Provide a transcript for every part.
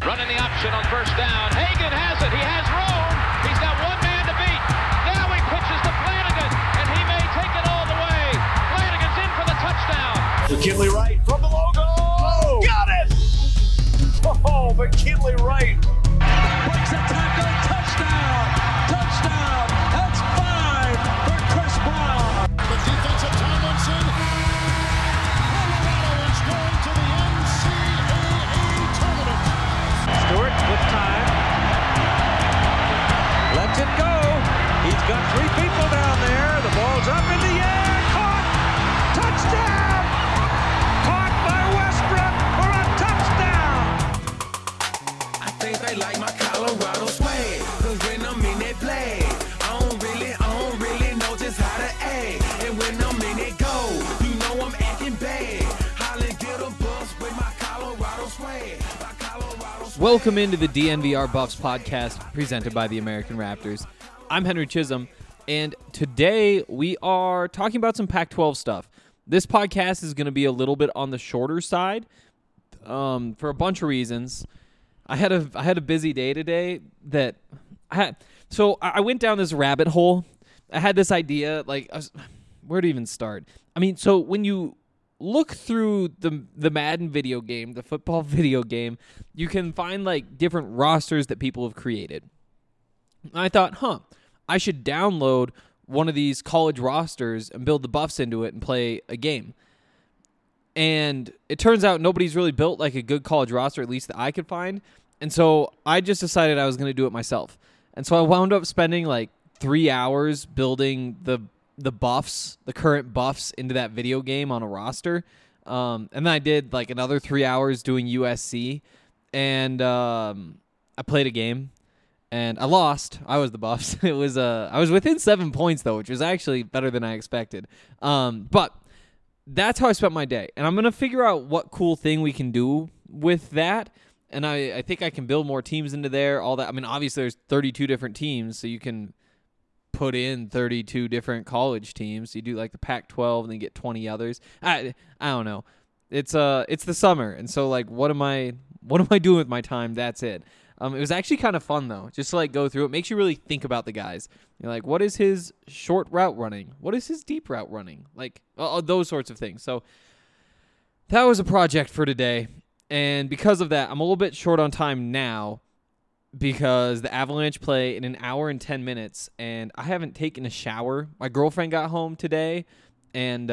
Running the option on first down. Hagan has it. He has room. He's got one man to beat. Now he pitches to Flanagan, and he may take it all the way. Flanagan's in for the touchdown. McKinley Wright from the logo. Oh, got it! Oh, McKinley Wright. Breaks a tackle. Touchdown. Touchdown. That's 5 for Chris Brown. The defensive Tomlinson. Colorado is going to the NCAA tournament. Stewart with time. Lets it go. He's got 3 people down there. The ball's up in the air. Caught. Touchdown. Caught by Westbrook for a touchdown. I think they like my Colorado swag. Cause when I'm in that play, I don't really know just how to act. And when I'm in it go, you know I'm acting bad. Holly get a bus with my Colorado swag. My Colorado swag. Welcome into the DNVR Buffs podcast presented by the American Raptors. I'm Henry Chisholm, and today we are talking about some Pac-12 stuff. This podcast is going to be a little bit on the shorter side for a bunch of reasons. I had a busy day today that I went down this rabbit hole. I had this idea, where to even start? I mean, so when you look through the Madden video game, the football video game, you can find different rosters that people have created. And I thought, I should download one of these college rosters and build the Buffs into it and play a game. And it turns out nobody's really built a good college roster, at least that I could find. And so I just decided I was going to do it myself. And so I wound up spending 3 hours building the Buffs, the current Buffs, into that video game on a roster. And then I did another 3 hours doing USC. And I played a game. And I lost. I was the Buffs. It was I was within 7 points though, which was actually better than I expected. But that's how I spent my day. And I'm gonna figure out what cool thing we can do with that. And I think I can build more teams into there. All that. I mean, obviously there's 32 different teams, so you can put in 32 different college teams. You do the Pac-12 and then get 20 others. I don't know. It's the summer, and so what am I doing with my time? That's it. It was actually kind of fun, though, just to go through it. Makes you really think about the guys. You're what is his short route running? What is his deep route running? Those sorts of things. So that was a project for today. And because of that, I'm a little bit short on time now because the Avalanche play in an hour and 10 minutes, and I haven't taken a shower. My girlfriend got home today, and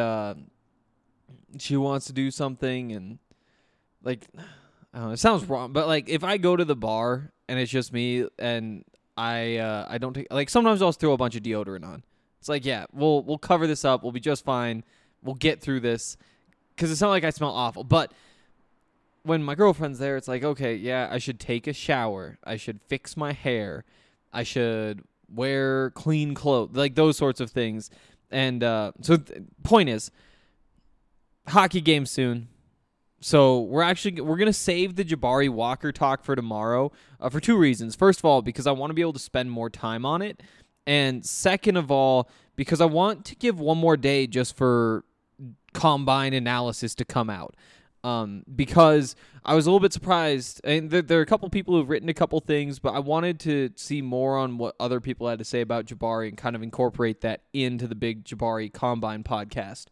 she wants to do something, and I don't know, it sounds wrong, but if I go to the bar and it's just me and I don't take sometimes I'll throw a bunch of deodorant on. It's yeah, we'll cover this up. We'll be just fine. We'll get through this because it's not like I smell awful. But when my girlfriend's there, it's okay, yeah, I should take a shower. I should fix my hair. I should wear clean clothes, those sorts of things. And point is, hockey game soon. So we're going to save the Jabari Walker talk for tomorrow for 2 reasons. First of all, because I want to be able to spend more time on it. And second of all, because I want to give one more day just for combine analysis to come out. Because I was a little bit surprised. And there are a couple people who've written a couple things, but I wanted to see more on what other people had to say about Jabari and kind of incorporate that into the big Jabari Combine podcast.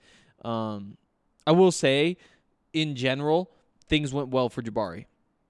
I will say, in general, things went well for Jabari.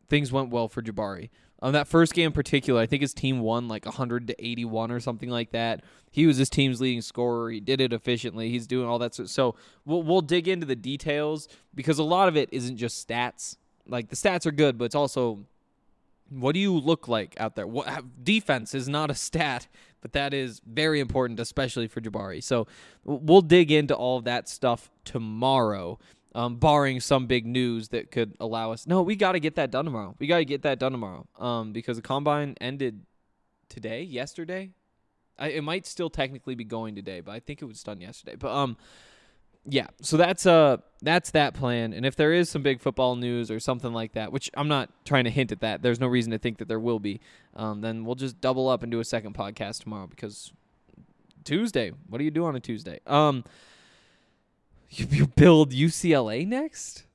That first game in particular, I think his team won 100-81 or something like that. He was his team's leading scorer. He did it efficiently. He's doing all that. So we'll dig into the details because a lot of it isn't just stats. The stats are good, but it's also what do you look like out there? Defense is not a stat, but that is very important, especially for Jabari. So we'll dig into all of that stuff tomorrow. Barring some big news that could allow us. No, we got to get that done tomorrow. Because the combine ended yesterday. It might still technically be going today, but I think it was done yesterday. But yeah, so that's that plan. And if there is some big football news or something like that, which I'm not trying to hint at that, there's no reason to think that there will be. Then we'll just double up and do a second podcast tomorrow because Tuesday. What do you do on a Tuesday? You build UCLA next?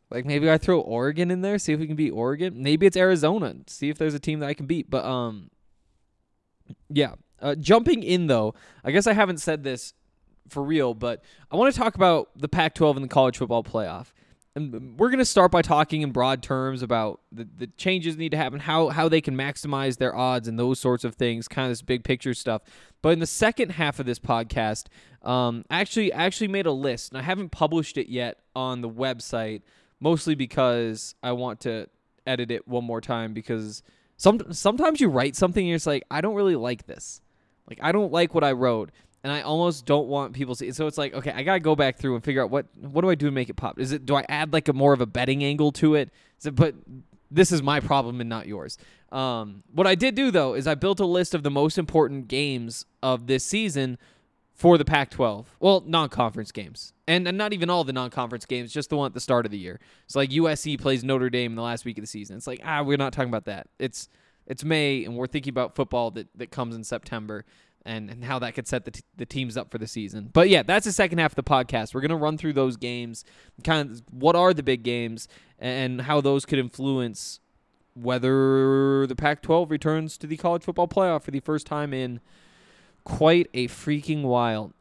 Like, maybe I throw Oregon in there, see if we can beat Oregon. Maybe it's Arizona, see if there's a team that I can beat. But, yeah. Jumping in, though, I guess I haven't said this for real, but I want to talk about the Pac-12 and the college football playoff. And we're going to start by talking in broad terms about the changes that need to happen, how they can maximize their odds and those sorts of things, kind of this big picture stuff. But in the second half of this podcast, I actually made a list, and I haven't published it yet on the website, mostly because I want to edit it one more time, because sometimes you write something and you're just like, I don't really like this. Like, I don't like what I wrote. And I almost don't want people to see it. So it's like, okay, I got to go back through and figure out what do I do to make it pop? Do I add like a more of a betting angle to it? But this is my problem and not yours. What I did do, though, is I built a list of the most important games of this season for the Pac-12. Well, non-conference games. And not even all the non-conference games, just the one at the start of the year. It's like USC plays Notre Dame in the last week of the season. It's like, we're not talking about that. It's May, and we're thinking about football that comes in September. And how that could set the teams up for the season. But yeah, that's the second half of the podcast. We're going to run through those games, kind of what are the big games, and how those could influence whether the Pac-12 returns to the college football playoff for the first time in quite a freaking while.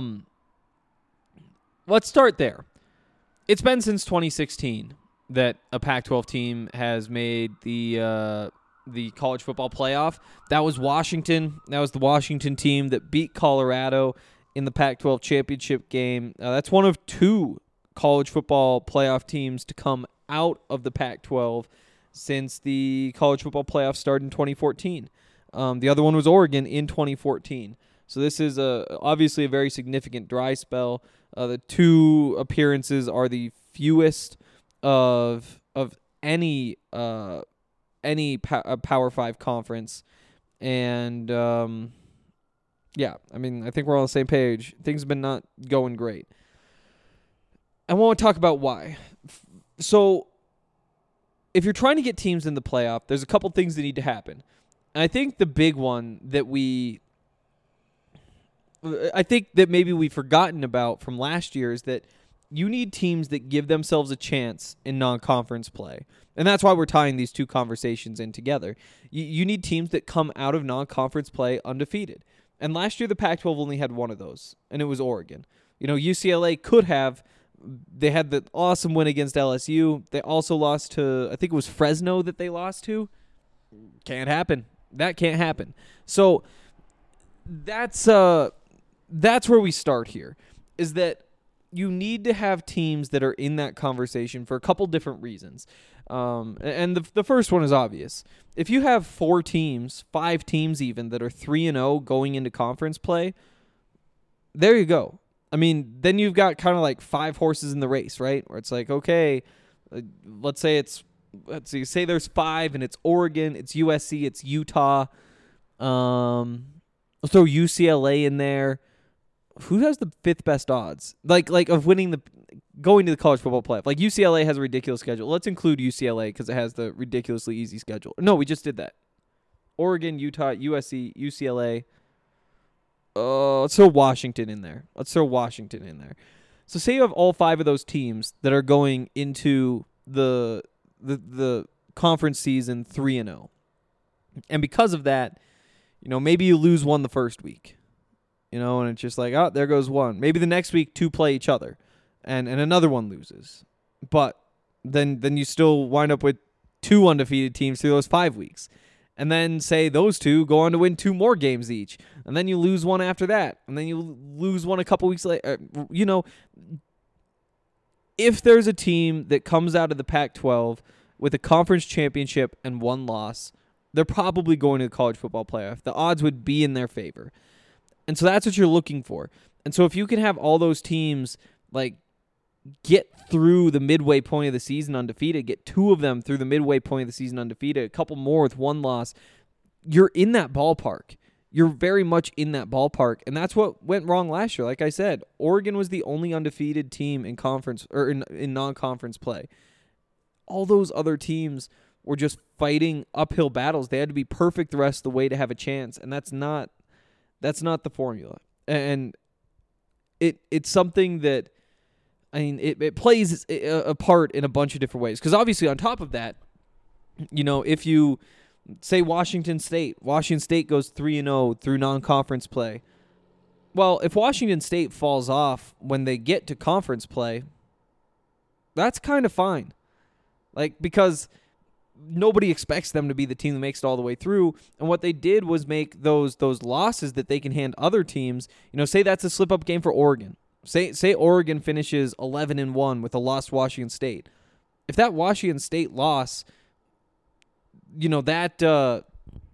Let's start there. It's been since 2016 that a Pac-12 team has made the college football playoff. That was Washington. That was the Washington team that beat Colorado in the Pac-12 championship game. That's one of two college football playoff teams to come out of the Pac-12 since the college football playoff started in 2014. The other one was Oregon in 2014. So this is obviously a very significant dry spell. The two appearances are the fewest of any Power 5 conference. And, yeah, I mean, I think we're all on the same page. Things have been not going great. I want to talk about why. So, if you're trying to get teams in the playoff, there's a couple things that need to happen. And I think the big one that maybe we've forgotten about from last year is that you need teams that give themselves a chance in non-conference play. And that's why we're tying these two conversations in together. You need teams that come out of non-conference play undefeated. And last year, the Pac-12 only had one of those, and it was Oregon. UCLA could have. They had the awesome win against LSU. They also lost to, I think it was Fresno that they lost to. Can't happen. That can't happen. So that's where we start here, is that you need to have teams that are in that conversation for a couple different reasons. And the first one is obvious. If you have 5 teams even, that are 3-0 going into conference play, there you go. I mean, then you've got kind of like 5 horses in the race, right? Where it's like, okay, let's say there's 5 and it's Oregon, it's USC, it's Utah. Let's throw UCLA in there. Who has the 5th best odds? Like of going to the college football playoff? Like UCLA has a ridiculous schedule. Let's include UCLA because it has the ridiculously easy schedule. No, we just did that. Oregon, Utah, USC, UCLA. Let's throw Washington in there. So say you have all 5 of those teams that are going into the conference season 3-0. And because of that, maybe you lose one the first week. And it's just like, oh, there goes one. Maybe the next week 2 play each other, and another one loses. But then you still wind up with 2 undefeated teams through those 5 weeks. And then say those 2 go on to win 2 more games each. And then you lose one after that. And then you lose one a couple weeks later. If there's a team that comes out of the Pac-12 with a conference championship and 1 loss, they're probably going to the college football playoff. The odds would be in their favor. And so that's what you're looking for. And so if you can have all those teams like get through the midway point of the season undefeated, get 2 of them through the midway point of the season undefeated, a couple more with 1 loss, you're in that ballpark. You're very much in that ballpark. And that's what went wrong last year. Like I said, Oregon was the only undefeated team in conference or in non-conference play. All those other teams were just fighting uphill battles. They had to be perfect the rest of the way to have a chance. And that's not the formula. And it's something that I mean, it plays a part in a bunch of different ways. Because obviously, on top of that, if you say Washington State goes 3-0 through non-conference play. Well, if Washington State falls off when they get to conference play, that's kind of fine. Because nobody expects them to be the team that makes it all the way through. And what they did was make those losses that they can hand other teams. Say that's a slip-up game for Oregon. Say Oregon finishes 11-1 with a loss to Washington State. If that Washington State loss, that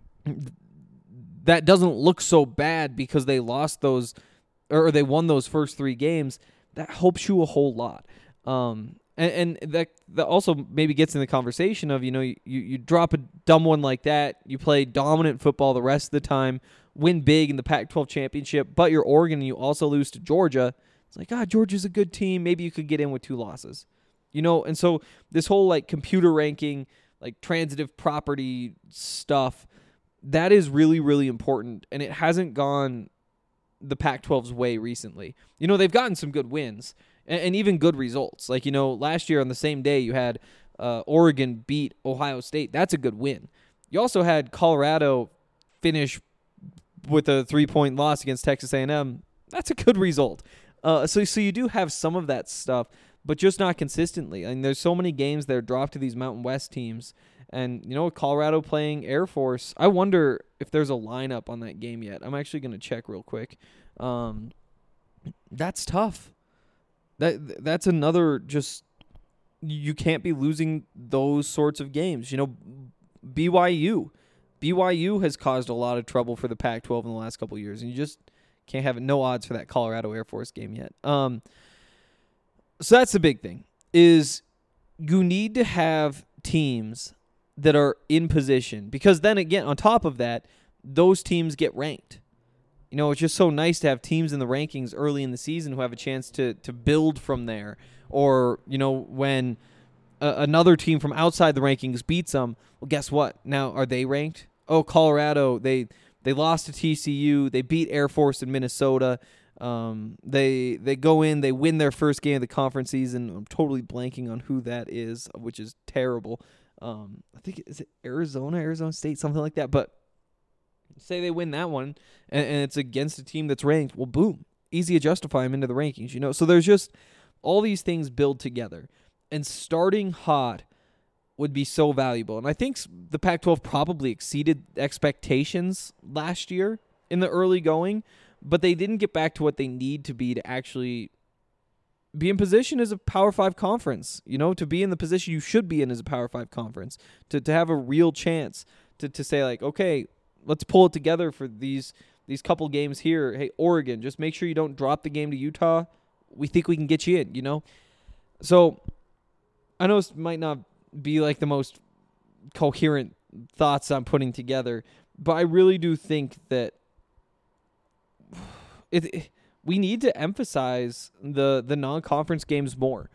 doesn't look so bad because they lost those or they won those first 3 games, that helps you a whole lot. And that also maybe gets in the conversation of, you drop a dumb one like that, you play dominant football the rest of the time, win big in the Pac-12 championship, but you're Oregon and you also lose to Georgia. It's like, Georgia's a good team. Maybe you could get in with 2 losses. And so this whole computer ranking, transitive property stuff, that is really, really important, and it hasn't gone the Pac-12's way recently. They've gotten some good wins and even good results. Last year on the same day you had Oregon beat Ohio State. That's a good win. You also had Colorado finish with a 3-point loss against Texas A&M. That's a good result. So you do have some of that stuff, but just not consistently. There's so many games that are dropped to these Mountain West teams. And, with Colorado playing Air Force, I wonder if there's a lineup on that game yet. I'm actually going to check real quick. That's tough. That's another just you can't be losing those sorts of games. BYU has caused a lot of trouble for the Pac-12 in the last couple of years, and you just can't have it. No odds for that Colorado Air Force game yet. So that's the big thing, is you need to have teams that are in position, because then again, on top of that, those teams get ranked. It's just so nice to have teams in the rankings early in the season who have a chance to build from there. Or, when another team from outside the rankings beats them, well, guess what? Now, are they ranked? Oh, Colorado, they lost to TCU. They beat Air Force in Minnesota. They go in, they win their first game of the conference season. I'm totally blanking on who that is, which is terrible. I think, is it Arizona State, something like that. But say they win that one, and it's against a team that's ranked, well, boom, easy to justify them into the rankings, So there's just all these things build together, and starting hot would be so valuable. And I think the Pac-12 probably exceeded expectations last year in the early going, but they didn't get back to what they need to be to actually be in position as a Power 5 conference, to be in the position you should be in as a Power 5 conference, to have a real chance to say, okay, let's pull it together for these couple games here. Hey, Oregon, just make sure you don't drop the game to Utah. We think we can get you in, So I know this might not be the most coherent thoughts I'm putting together, but I really do think that we need to emphasize the non-conference games more.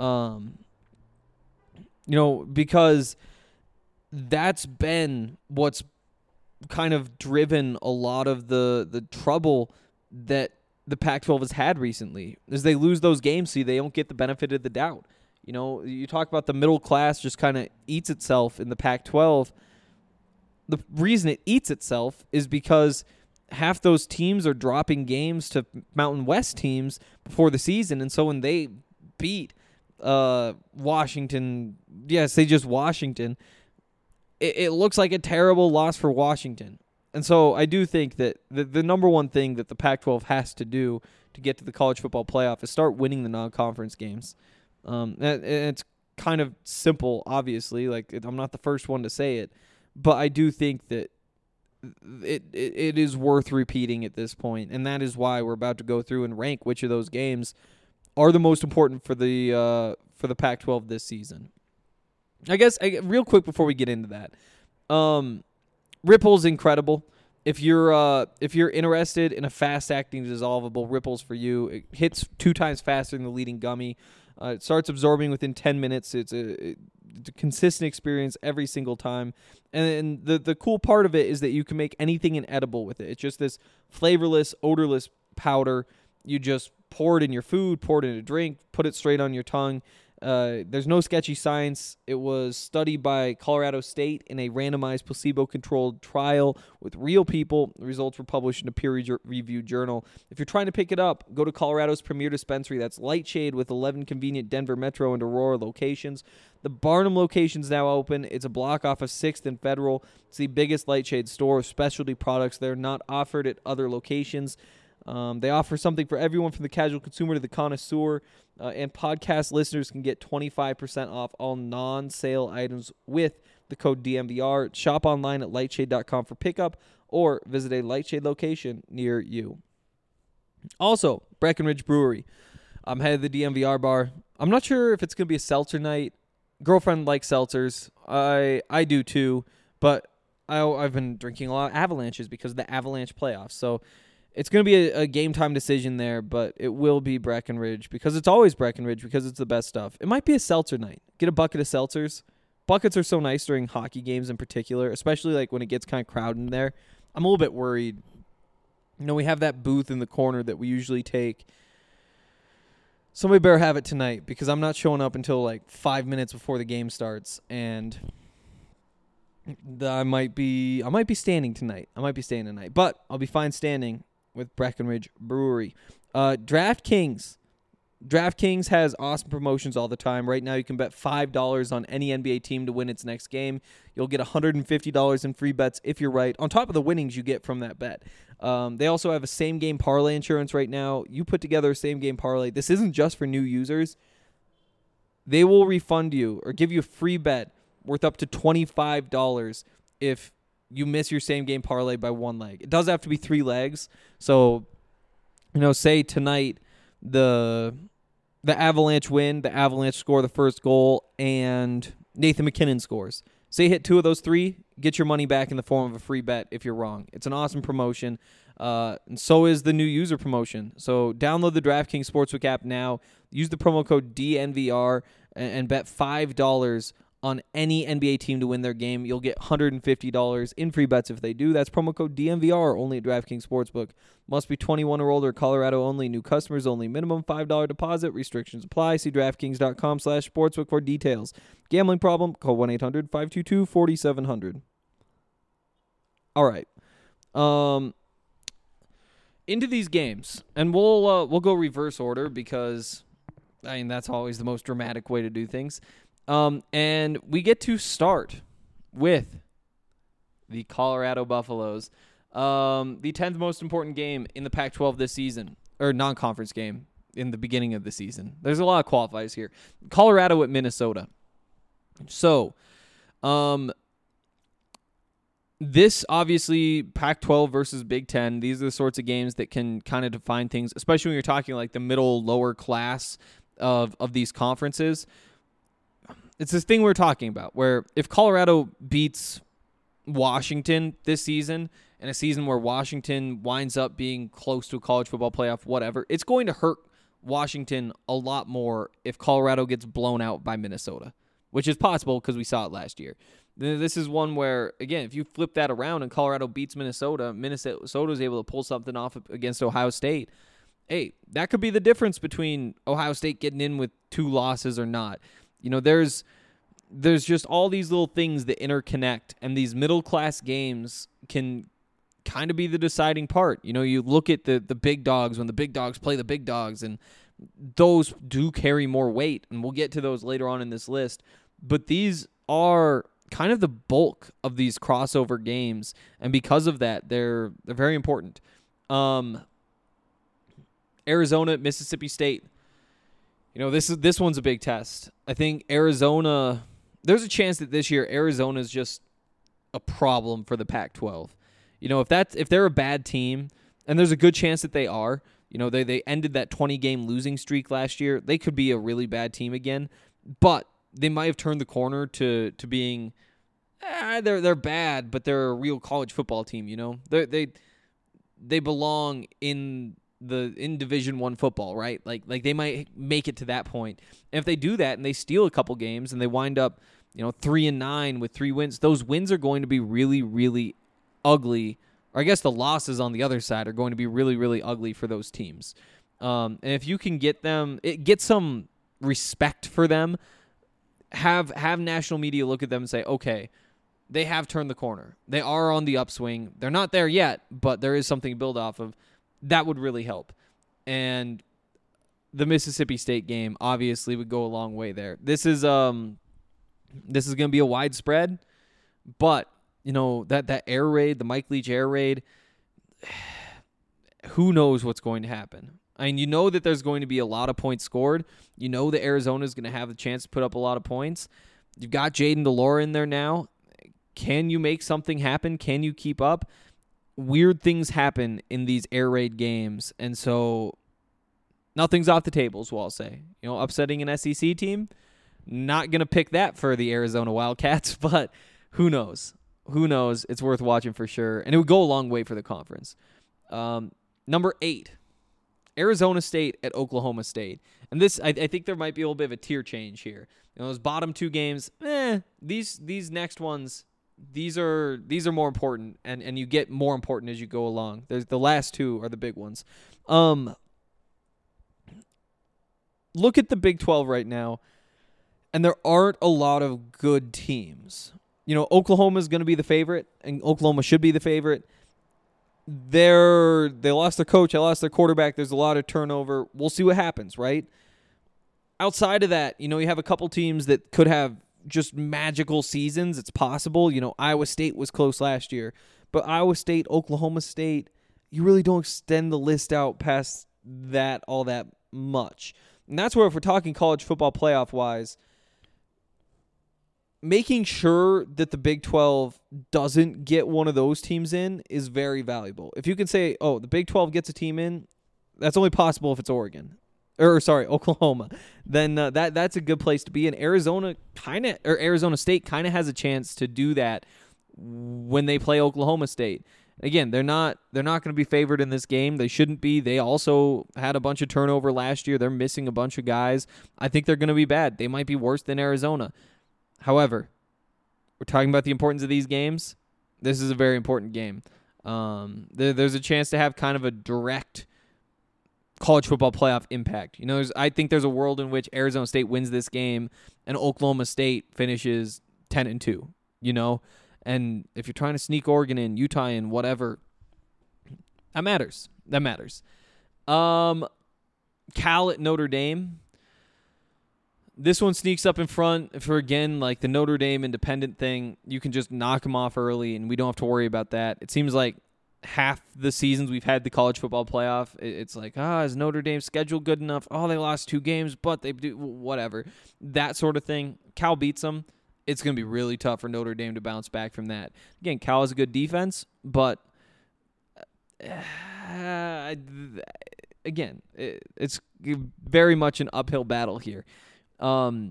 Because that's been what's kind of driven a lot of the trouble that the Pac-12 has had recently, is they lose those games, so they don't get the benefit of the doubt. You talk about the middle class just kind of eats itself in the Pac-12. The reason it eats itself is because half those teams are dropping games to Mountain West teams before the season, and so when they beat Washington, say just Washington, it looks like a terrible loss for Washington. And so I do think that the number one thing that the Pac-12 has to do to get to the college football playoff is start winning the non-conference games. And it's kind of simple, obviously. I'm not the first one to say it, but I do think that it is worth repeating at this point, and that is why we're about to go through and rank which of those games are the most important for the Pac-12 this season. I guess real quick before we get into that, Ripple's incredible. If you're interested in a fast-acting dissolvable, Ripple's for you. It hits 2 times faster than the leading gummy. It starts absorbing within 10 minutes. It's a consistent experience every single time. And the cool part of it is that you can make anything inedible with it. It's just this flavorless, odorless powder. You just pour it in your food, pour it in a drink, put it straight on your tongue. There's no sketchy science. It was studied by Colorado State in a randomized placebo-controlled trial with real people. The results were published in a peer-reviewed journal. If you're trying to pick it up, go to Colorado's premier dispensary. That's Lightshade with 11 convenient Denver Metro and Aurora locations. The Barnum location's now open. It's a block off of 6th and Federal. It's the biggest Lightshade store of specialty products. They're not offered at other locations. They offer something for everyone from the casual consumer to the connoisseur, and podcast listeners can get 25% off all non-sale items with the code DMVR. Shop online at lightshade.com for pickup or visit a Lightshade location near you. Also, Breckenridge Brewery. I'm headed to the DMVR bar. I'm not sure if it's going to be a seltzer night. Girlfriend likes seltzers. I do too, but I've been drinking a lot of Avalanches because of the Avalanche playoffs, so it's going to be a game-time decision there, but it will be Breckenridge because it's always Breckenridge because it's the best stuff. It might be a seltzer night. Get a bucket of seltzers. Buckets are so nice during hockey games in particular, especially like when it gets kind of crowded in there. I'm a little bit worried. You know, we have that booth in the corner that we usually take. Somebody better have it tonight because I'm not showing up until like 5 minutes before the game starts, and I might be standing tonight. But I'll be fine standing with Breckenridge Brewery. DraftKings. DraftKings has awesome promotions all the time. Right now, you can bet $5 on any NBA team to win its next game. You'll get $150 in free bets if you're right, on top of the winnings you get from that bet. They also have a same-game parlay insurance right now. You put together a same-game parlay. This isn't just for new users. They will refund you or give you a free bet worth up to $25 if you miss your same-game parlay by one leg. It does have to be 3 legs. So, say tonight the Avalanche win, the Avalanche score the first goal, and Nathan McKinnon scores. Say hit 2 of those 3, get your money back in the form of a free bet if you're wrong. It's an awesome promotion, and so is the new user promotion. So download the DraftKings Sportsbook app now. Use the promo code DNVR and bet $5 on any NBA team to win their game. You'll get $150 in free bets if they do. That's promo code DNVR only at DraftKings Sportsbook. Must be 21 or older, Colorado only, new customers only, minimum $5 deposit, restrictions apply. See DraftKings.com/sportsbook for details. Gambling problem? Call 1-800-522-4700. All right. Into these games, and we'll go reverse order because, that's always the most dramatic way to do things. And we get to start with the Colorado Buffaloes, the 10th most important game in the Pac-12 this season, or non-conference game in the beginning of the season. There's a lot of qualifiers here. Colorado at Minnesota. So, this obviously Pac-12 versus Big Ten. These are the sorts of games that can kind of define things, especially when you're talking like the middle, lower class of these conferences. It's this thing we're talking about where if Colorado beats Washington this season, in a season where Washington winds up being close to a college football playoff, whatever, it's going to hurt Washington a lot more if Colorado gets blown out by Minnesota, which is possible because we saw it last year. This is one where, again, if you flip that around and Colorado beats Minnesota, Minnesota is able to pull something off against Ohio State. Hey, that could be the difference between Ohio State getting in with 2 losses or not. There's just all these little things that interconnect, and these middle-class games can kind of be the deciding part. You look at the big dogs when the big dogs play the big dogs, and those do carry more weight, and we'll get to those later on in this list. But these are kind of the bulk of these crossover games, and because of that, they're very important. Arizona at Mississippi State. This one's a big test. I think Arizona, there's a chance that this year Arizona is just a problem for the Pac-12. If they're a bad team, and there's a good chance that they are, they ended that 20-game losing streak last year. They could be a really bad team again, but they might have turned the corner to being, they're bad, but they're a real college football team. They belong in Division I football, right? Like they might make it to that point. And if they do that and they steal a couple games and they wind up, 3-9 with 3 wins, those wins are going to be really, really ugly. Or I guess the losses on the other side are going to be really, really ugly for those teams. And if you can get some respect for them, have national media look at them and say, okay, they have turned the corner. They are on the upswing. They're not there yet, but there is something to build off of. That would really help. And the Mississippi State game obviously would go a long way there. This is going to be a widespread, but that air raid, the Mike Leach air raid, who knows what's going to happen. I mean, that there's going to be a lot of points scored. That Arizona is going to have the chance to put up a lot of points. You've got Jaden Delora in there now. Can you make something happen? Can you keep up? Weird things happen in these air raid games, and so nothing's off the table, is what I'll say. Upsetting an SEC team, not going to pick that for the Arizona Wildcats, but who knows? Who knows? It's worth watching for sure, and it would go a long way for the conference. Number 8, Arizona State at Oklahoma State. And this, I think there might be a little bit of a tier change here. Those bottom 2 games, these next ones, these are more important, and you get more important as you go along. There's the last 2 are the big ones. Look at the Big 12 right now, and there aren't a lot of good teams. Oklahoma is going to be the favorite, and Oklahoma should be the favorite. They lost their coach. They lost their quarterback. There's a lot of turnover. We'll see what happens, right? Outside of that, you have a couple teams that could have just magical seasons. It's possible. Iowa State was close last year. But Iowa State, Oklahoma State, you really don't extend the list out past that all that much. And that's where, if we're talking college football playoff-wise, making sure that the Big 12 doesn't get one of those teams in is very valuable. If you can say, the Big 12 gets a team in, that's only possible if it's Oklahoma. Then that's a good place to be. And Arizona State kind of has a chance to do that when they play Oklahoma State. Again, they're not going to be favored in this game. They shouldn't be. They also had a bunch of turnover last year. They're missing a bunch of guys. I think they're going to be bad. They might be worse than Arizona. However, we're talking about the importance of these games. This is a very important game. There's a chance to have kind of a direct college football playoff impact. I think there's a world in which Arizona State wins this game and Oklahoma State finishes 10-2. And if you're trying to sneak Oregon in, Utah in, whatever, that matters. Cal at Notre Dame. This one sneaks up in front for, again, like the Notre Dame independent thing. You can just knock them off early, and we don't have to worry about that. It seems like half the seasons we've had the college football playoff, it's like, is Notre Dame's schedule good enough? They lost 2 games, but they do whatever. That sort of thing. Cal beats them. It's going to be really tough for Notre Dame to bounce back from that. Again, Cal has a good defense, but again, it's very much an uphill battle here. I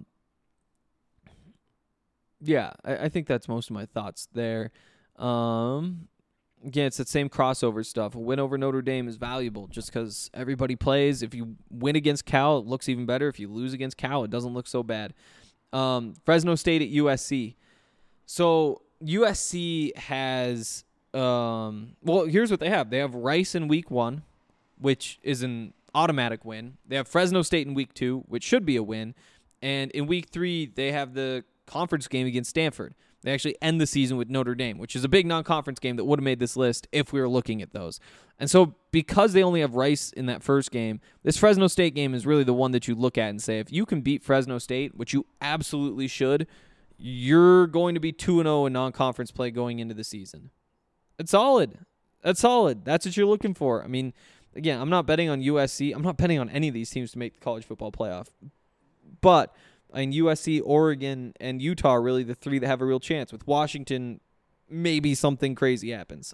think that's most of my thoughts there. Again, it's that same crossover stuff. A win over Notre Dame is valuable just because everybody plays. If you win against Cal, it looks even better. If you lose against Cal, it doesn't look so bad. Fresno State at USC. So USC has, here's what they have. They have Rice in week 1, which is an automatic win. They have Fresno State in week 2, which should be a win. And in week 3, they have the conference game against Stanford. They actually end the season with Notre Dame, which is a big non-conference game that would have made this list if we were looking at those. And so because they only have Rice in that first game, this Fresno State game is really the one that you look at and say, if you can beat Fresno State, which you absolutely should, you're going to be 2-0 in non-conference play going into the season. It's solid. That's solid. That's what you're looking for. I mean, again, I'm not betting on USC. I'm not betting on any of these teams to make the college football playoff. But USC, Oregon, and Utah are really the 3 that have a real chance. With Washington, maybe something crazy happens.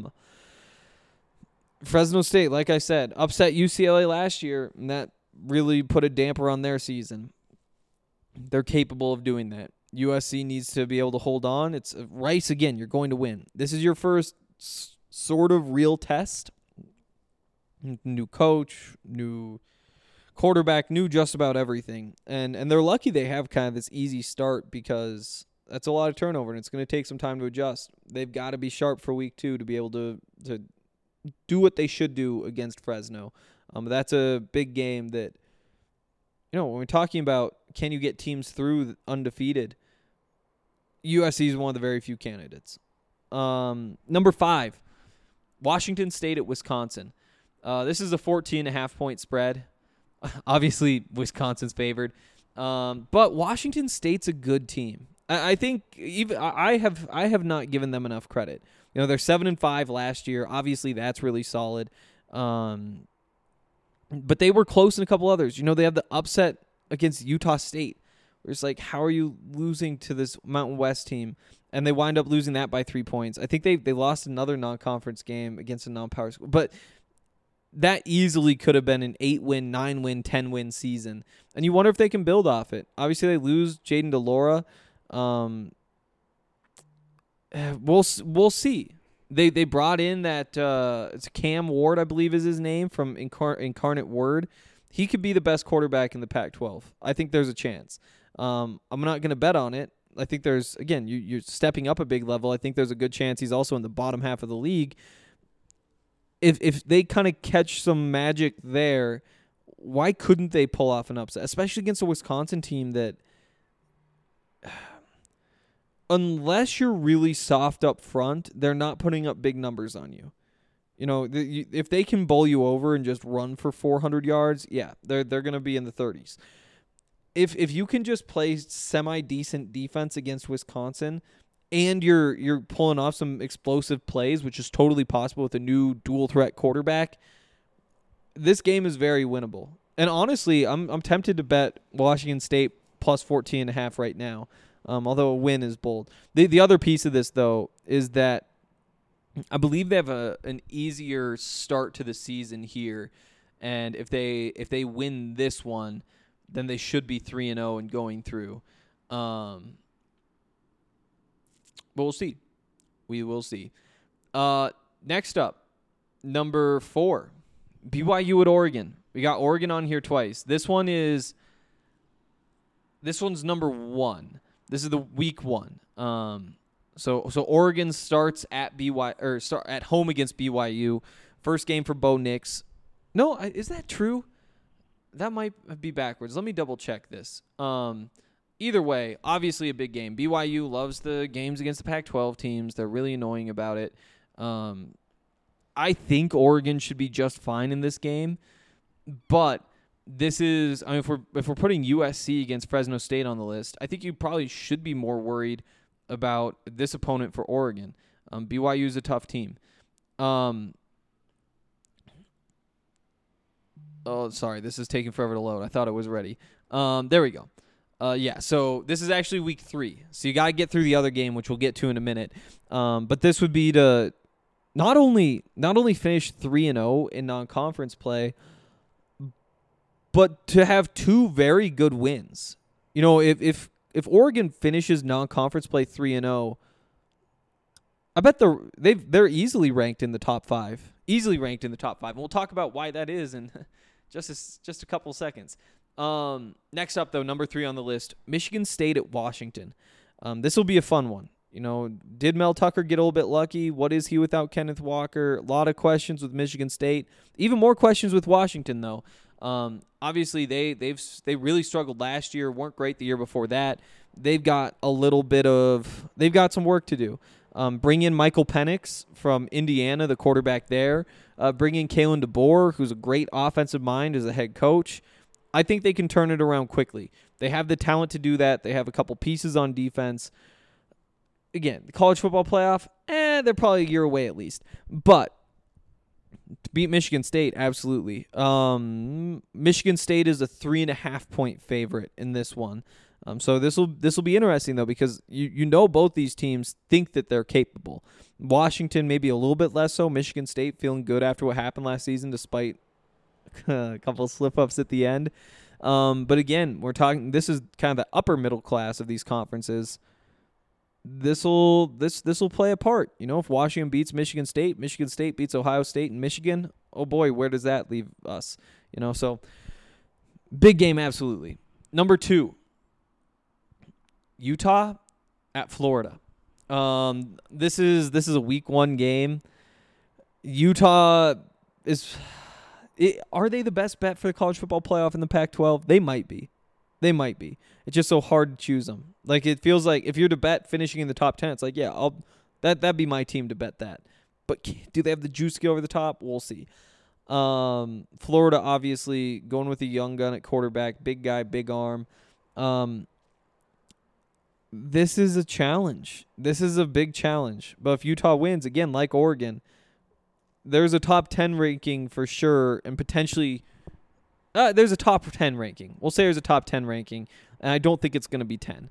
Fresno State, like I said, upset UCLA last year, and that really put a damper on their season. They're capable of doing that. USC needs to be able to hold on. It's Rice again. You're going to win. This is your first sort of real test. New coach, new quarterback, new just about everything. And they're lucky they have kind of this easy start because that's a lot of turnover, and it's going to take some time to adjust. They've got to be sharp for week 2 to be able to do what they should do against Fresno. That's a big game that, when we're talking about can you get teams through undefeated, USC is one of the very few candidates. Number 5, Washington State at Wisconsin. This is a 14.5-point spread. Obviously, Wisconsin's favored. But Washington State's a good team. I think even I have not given them enough credit. They're 7-5 last year. Obviously, that's really solid. But they were close in a couple others. They had the upset against Utah State. It's like, how are you losing to this Mountain West team? And they wind up losing that by 3 points. I think they lost another non-conference game against a non-power school. But that easily could have been an 8-win, 9-win, 10-win season. And you wonder if they can build off it. Obviously, they lose Jaden DeLaura. We'll see. They brought in that it's Cam Ward, I believe is his name, from Incarnate Word. He could be the best quarterback in the Pac-12. I think there's a chance. I'm not going to bet on it. I think there's, again, you're stepping up a big level. I think there's a good chance he's also in the bottom half of the league. If they kind of catch some magic there, why couldn't they pull off an upset? Especially against a Wisconsin team that, unless you're really soft up front, they're not putting up big numbers on you. If they can bowl you over and just run for 400 yards, yeah, they're going to be in the 30s. If you can just play semi-decent defense against Wisconsin and you're pulling off some explosive plays, which is totally possible with a new dual-threat quarterback, this game is very winnable. And honestly, I'm tempted to bet Washington State plus 14.5 right now, although a win is bold. The other piece of this, though, is that I believe they have an easier start to the season here, and if they win this one, then they should be 3-0 and going through. But we'll see. We will see. Next up, number 4, BYU at Oregon. We got Oregon on here twice. This one's number 1. This is the week 1. So Oregon starts at start at home against BYU. First game for Bo Nix. No, is that true? That might be backwards. Let me double check this. Either way, obviously a big game. BYU loves the games against the Pac-12 teams. They're really annoying about it. I think Oregon should be just fine in this game, but this is, if we're putting USC against Fresno State on the list, I think you probably should be more worried about this opponent for Oregon. BYU is a tough team. Oh, sorry, this is taking forever to load. I thought it was ready. There we go. So this is actually week 3. So you got to get through the other game, which we'll get to in a minute. But this would be to not only finish 3-0 in non-conference play, but to have 2 very good wins. If Oregon finishes non-conference play 3-0, I bet they're easily ranked in the top 5. Easily ranked in the top 5. And we'll talk about why that is in just a couple seconds. Next up, though, number 3 on the list, Michigan State at Washington. This will be a fun one. Did Mel Tucker get a little bit lucky? What is he without Kenneth Walker? A lot of questions with Michigan State. Even more questions with Washington, though. Obviously, they really struggled last year. Weren't great the year before that. They've got some work to do. Bring in Michael Penix from Indiana, the quarterback there. Bring in Kalen DeBoer, who's a great offensive mind as a head coach. I think they can turn it around quickly. They have the talent to do that. They have a couple pieces on defense. Again, the college football playoff, they're probably a year away at least. But to beat Michigan State, absolutely. Michigan State is a 3.5-point favorite in this one. So this will be interesting, though, because both these teams think that they're capable. Washington maybe a little bit less so. Michigan State feeling good after what happened last season, despite a couple of slip-ups at the end. But again, we're talking. This is kind of the upper middle class of these conferences. This will play a part. If Washington beats Michigan State beats Ohio State and Michigan, oh boy, where does that leave us? So big game, absolutely. Number 2. Utah at Florida. This is a week 1 game. Utah is Are they the best bet for the college football playoff in the Pac-12? They might be. They might be. It's just so hard to choose them. Like, it feels like if you're to bet finishing in the top 10, it's like, yeah, that'd be my team to bet that. But do they have the juice to get over the top? We'll see. Florida, obviously, going with a young gun at quarterback, big guy, big arm. This is a challenge. This is a big challenge. But if Utah wins, again, like Oregon, there's a top 10 ranking for sure, and potentially there's a top 10 ranking. We'll say there's a top 10 ranking, and I don't think it's going to be 10.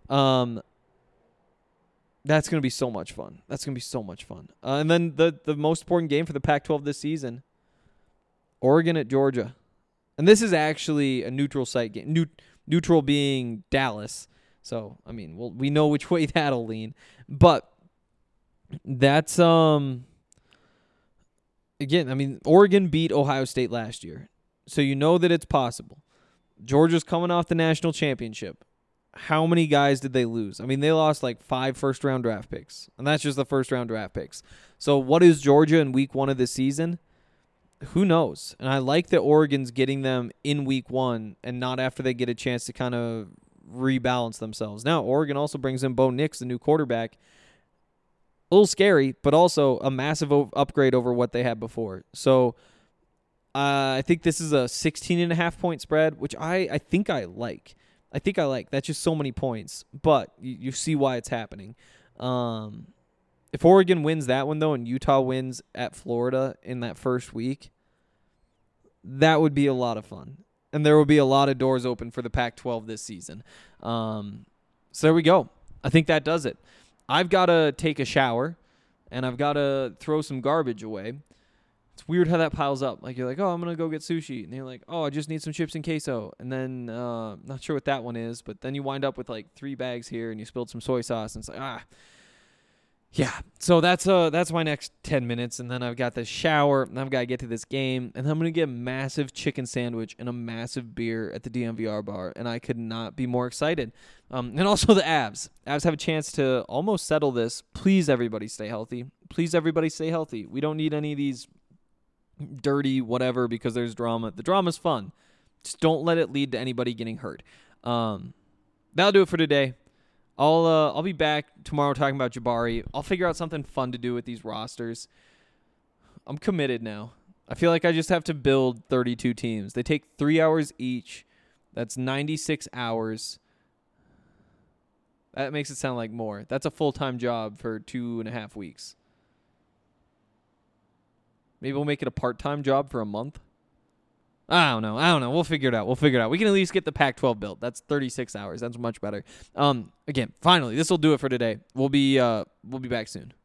That's going to be so much fun. And then the most important game for the Pac-12 this season, Oregon at Georgia. And this is actually a neutral site game, neutral being Dallas. So, I mean, we know which way that'll lean. But that's, again, I mean, Oregon beat Ohio State last year. So you know that it's possible. Georgia's coming off the national championship. How many guys did they lose? I mean, they lost like 5 first-round draft picks. And that's just the first-round draft picks. So what is Georgia in week 1 of this season? Who knows? And I like that Oregon's getting them in week 1 and not after they get a chance to kind of rebalance themselves. Now, Oregon also brings in Bo Nix, the new quarterback. A little scary, but also a massive upgrade over what they had before. So I think this is a 16.5-point spread, which I think I like. That's just so many points, but you see why it's happening. If Oregon wins that one, though, and Utah wins at Florida in that first week, that would be a lot of fun. And there will be a lot of doors open for the Pac-12 this season. So there we go. I think that does it. I've got to take a shower, and I've got to throw some garbage away. It's weird how that piles up. Like, you're like, oh, I'm going to go get sushi. And you're like, oh, I just need some chips and queso. And then, not sure what that one is, but then you wind up with like 3 bags here, and you spilled some soy sauce, and it's like, yeah. So that's my next 10 minutes, and then I've got the shower, and I've got to get to this game, and I'm going to get a massive chicken sandwich and a massive beer at the DMVR bar, and I could not be more excited. And also the Avs. Avs have a chance to almost settle this. Please, everybody, stay healthy. We don't need any of these dirty whatever because there's drama. The drama's fun. Just don't let it lead to anybody getting hurt. That'll do it for today. I'll be back tomorrow talking about Jabari. I'll figure out something fun to do with these rosters. I'm committed now. I feel like I just have to build 32 teams. They take 3 hours each. That's 96 hours. That makes it sound like more. That's a full-time job for 2.5 weeks. Maybe we'll make it a part-time job for a month. I don't know. We'll figure it out. We can at least get the Pac-12 built. That's 36 hours. That's much better. Again, finally, this will do it for today. We'll be back soon.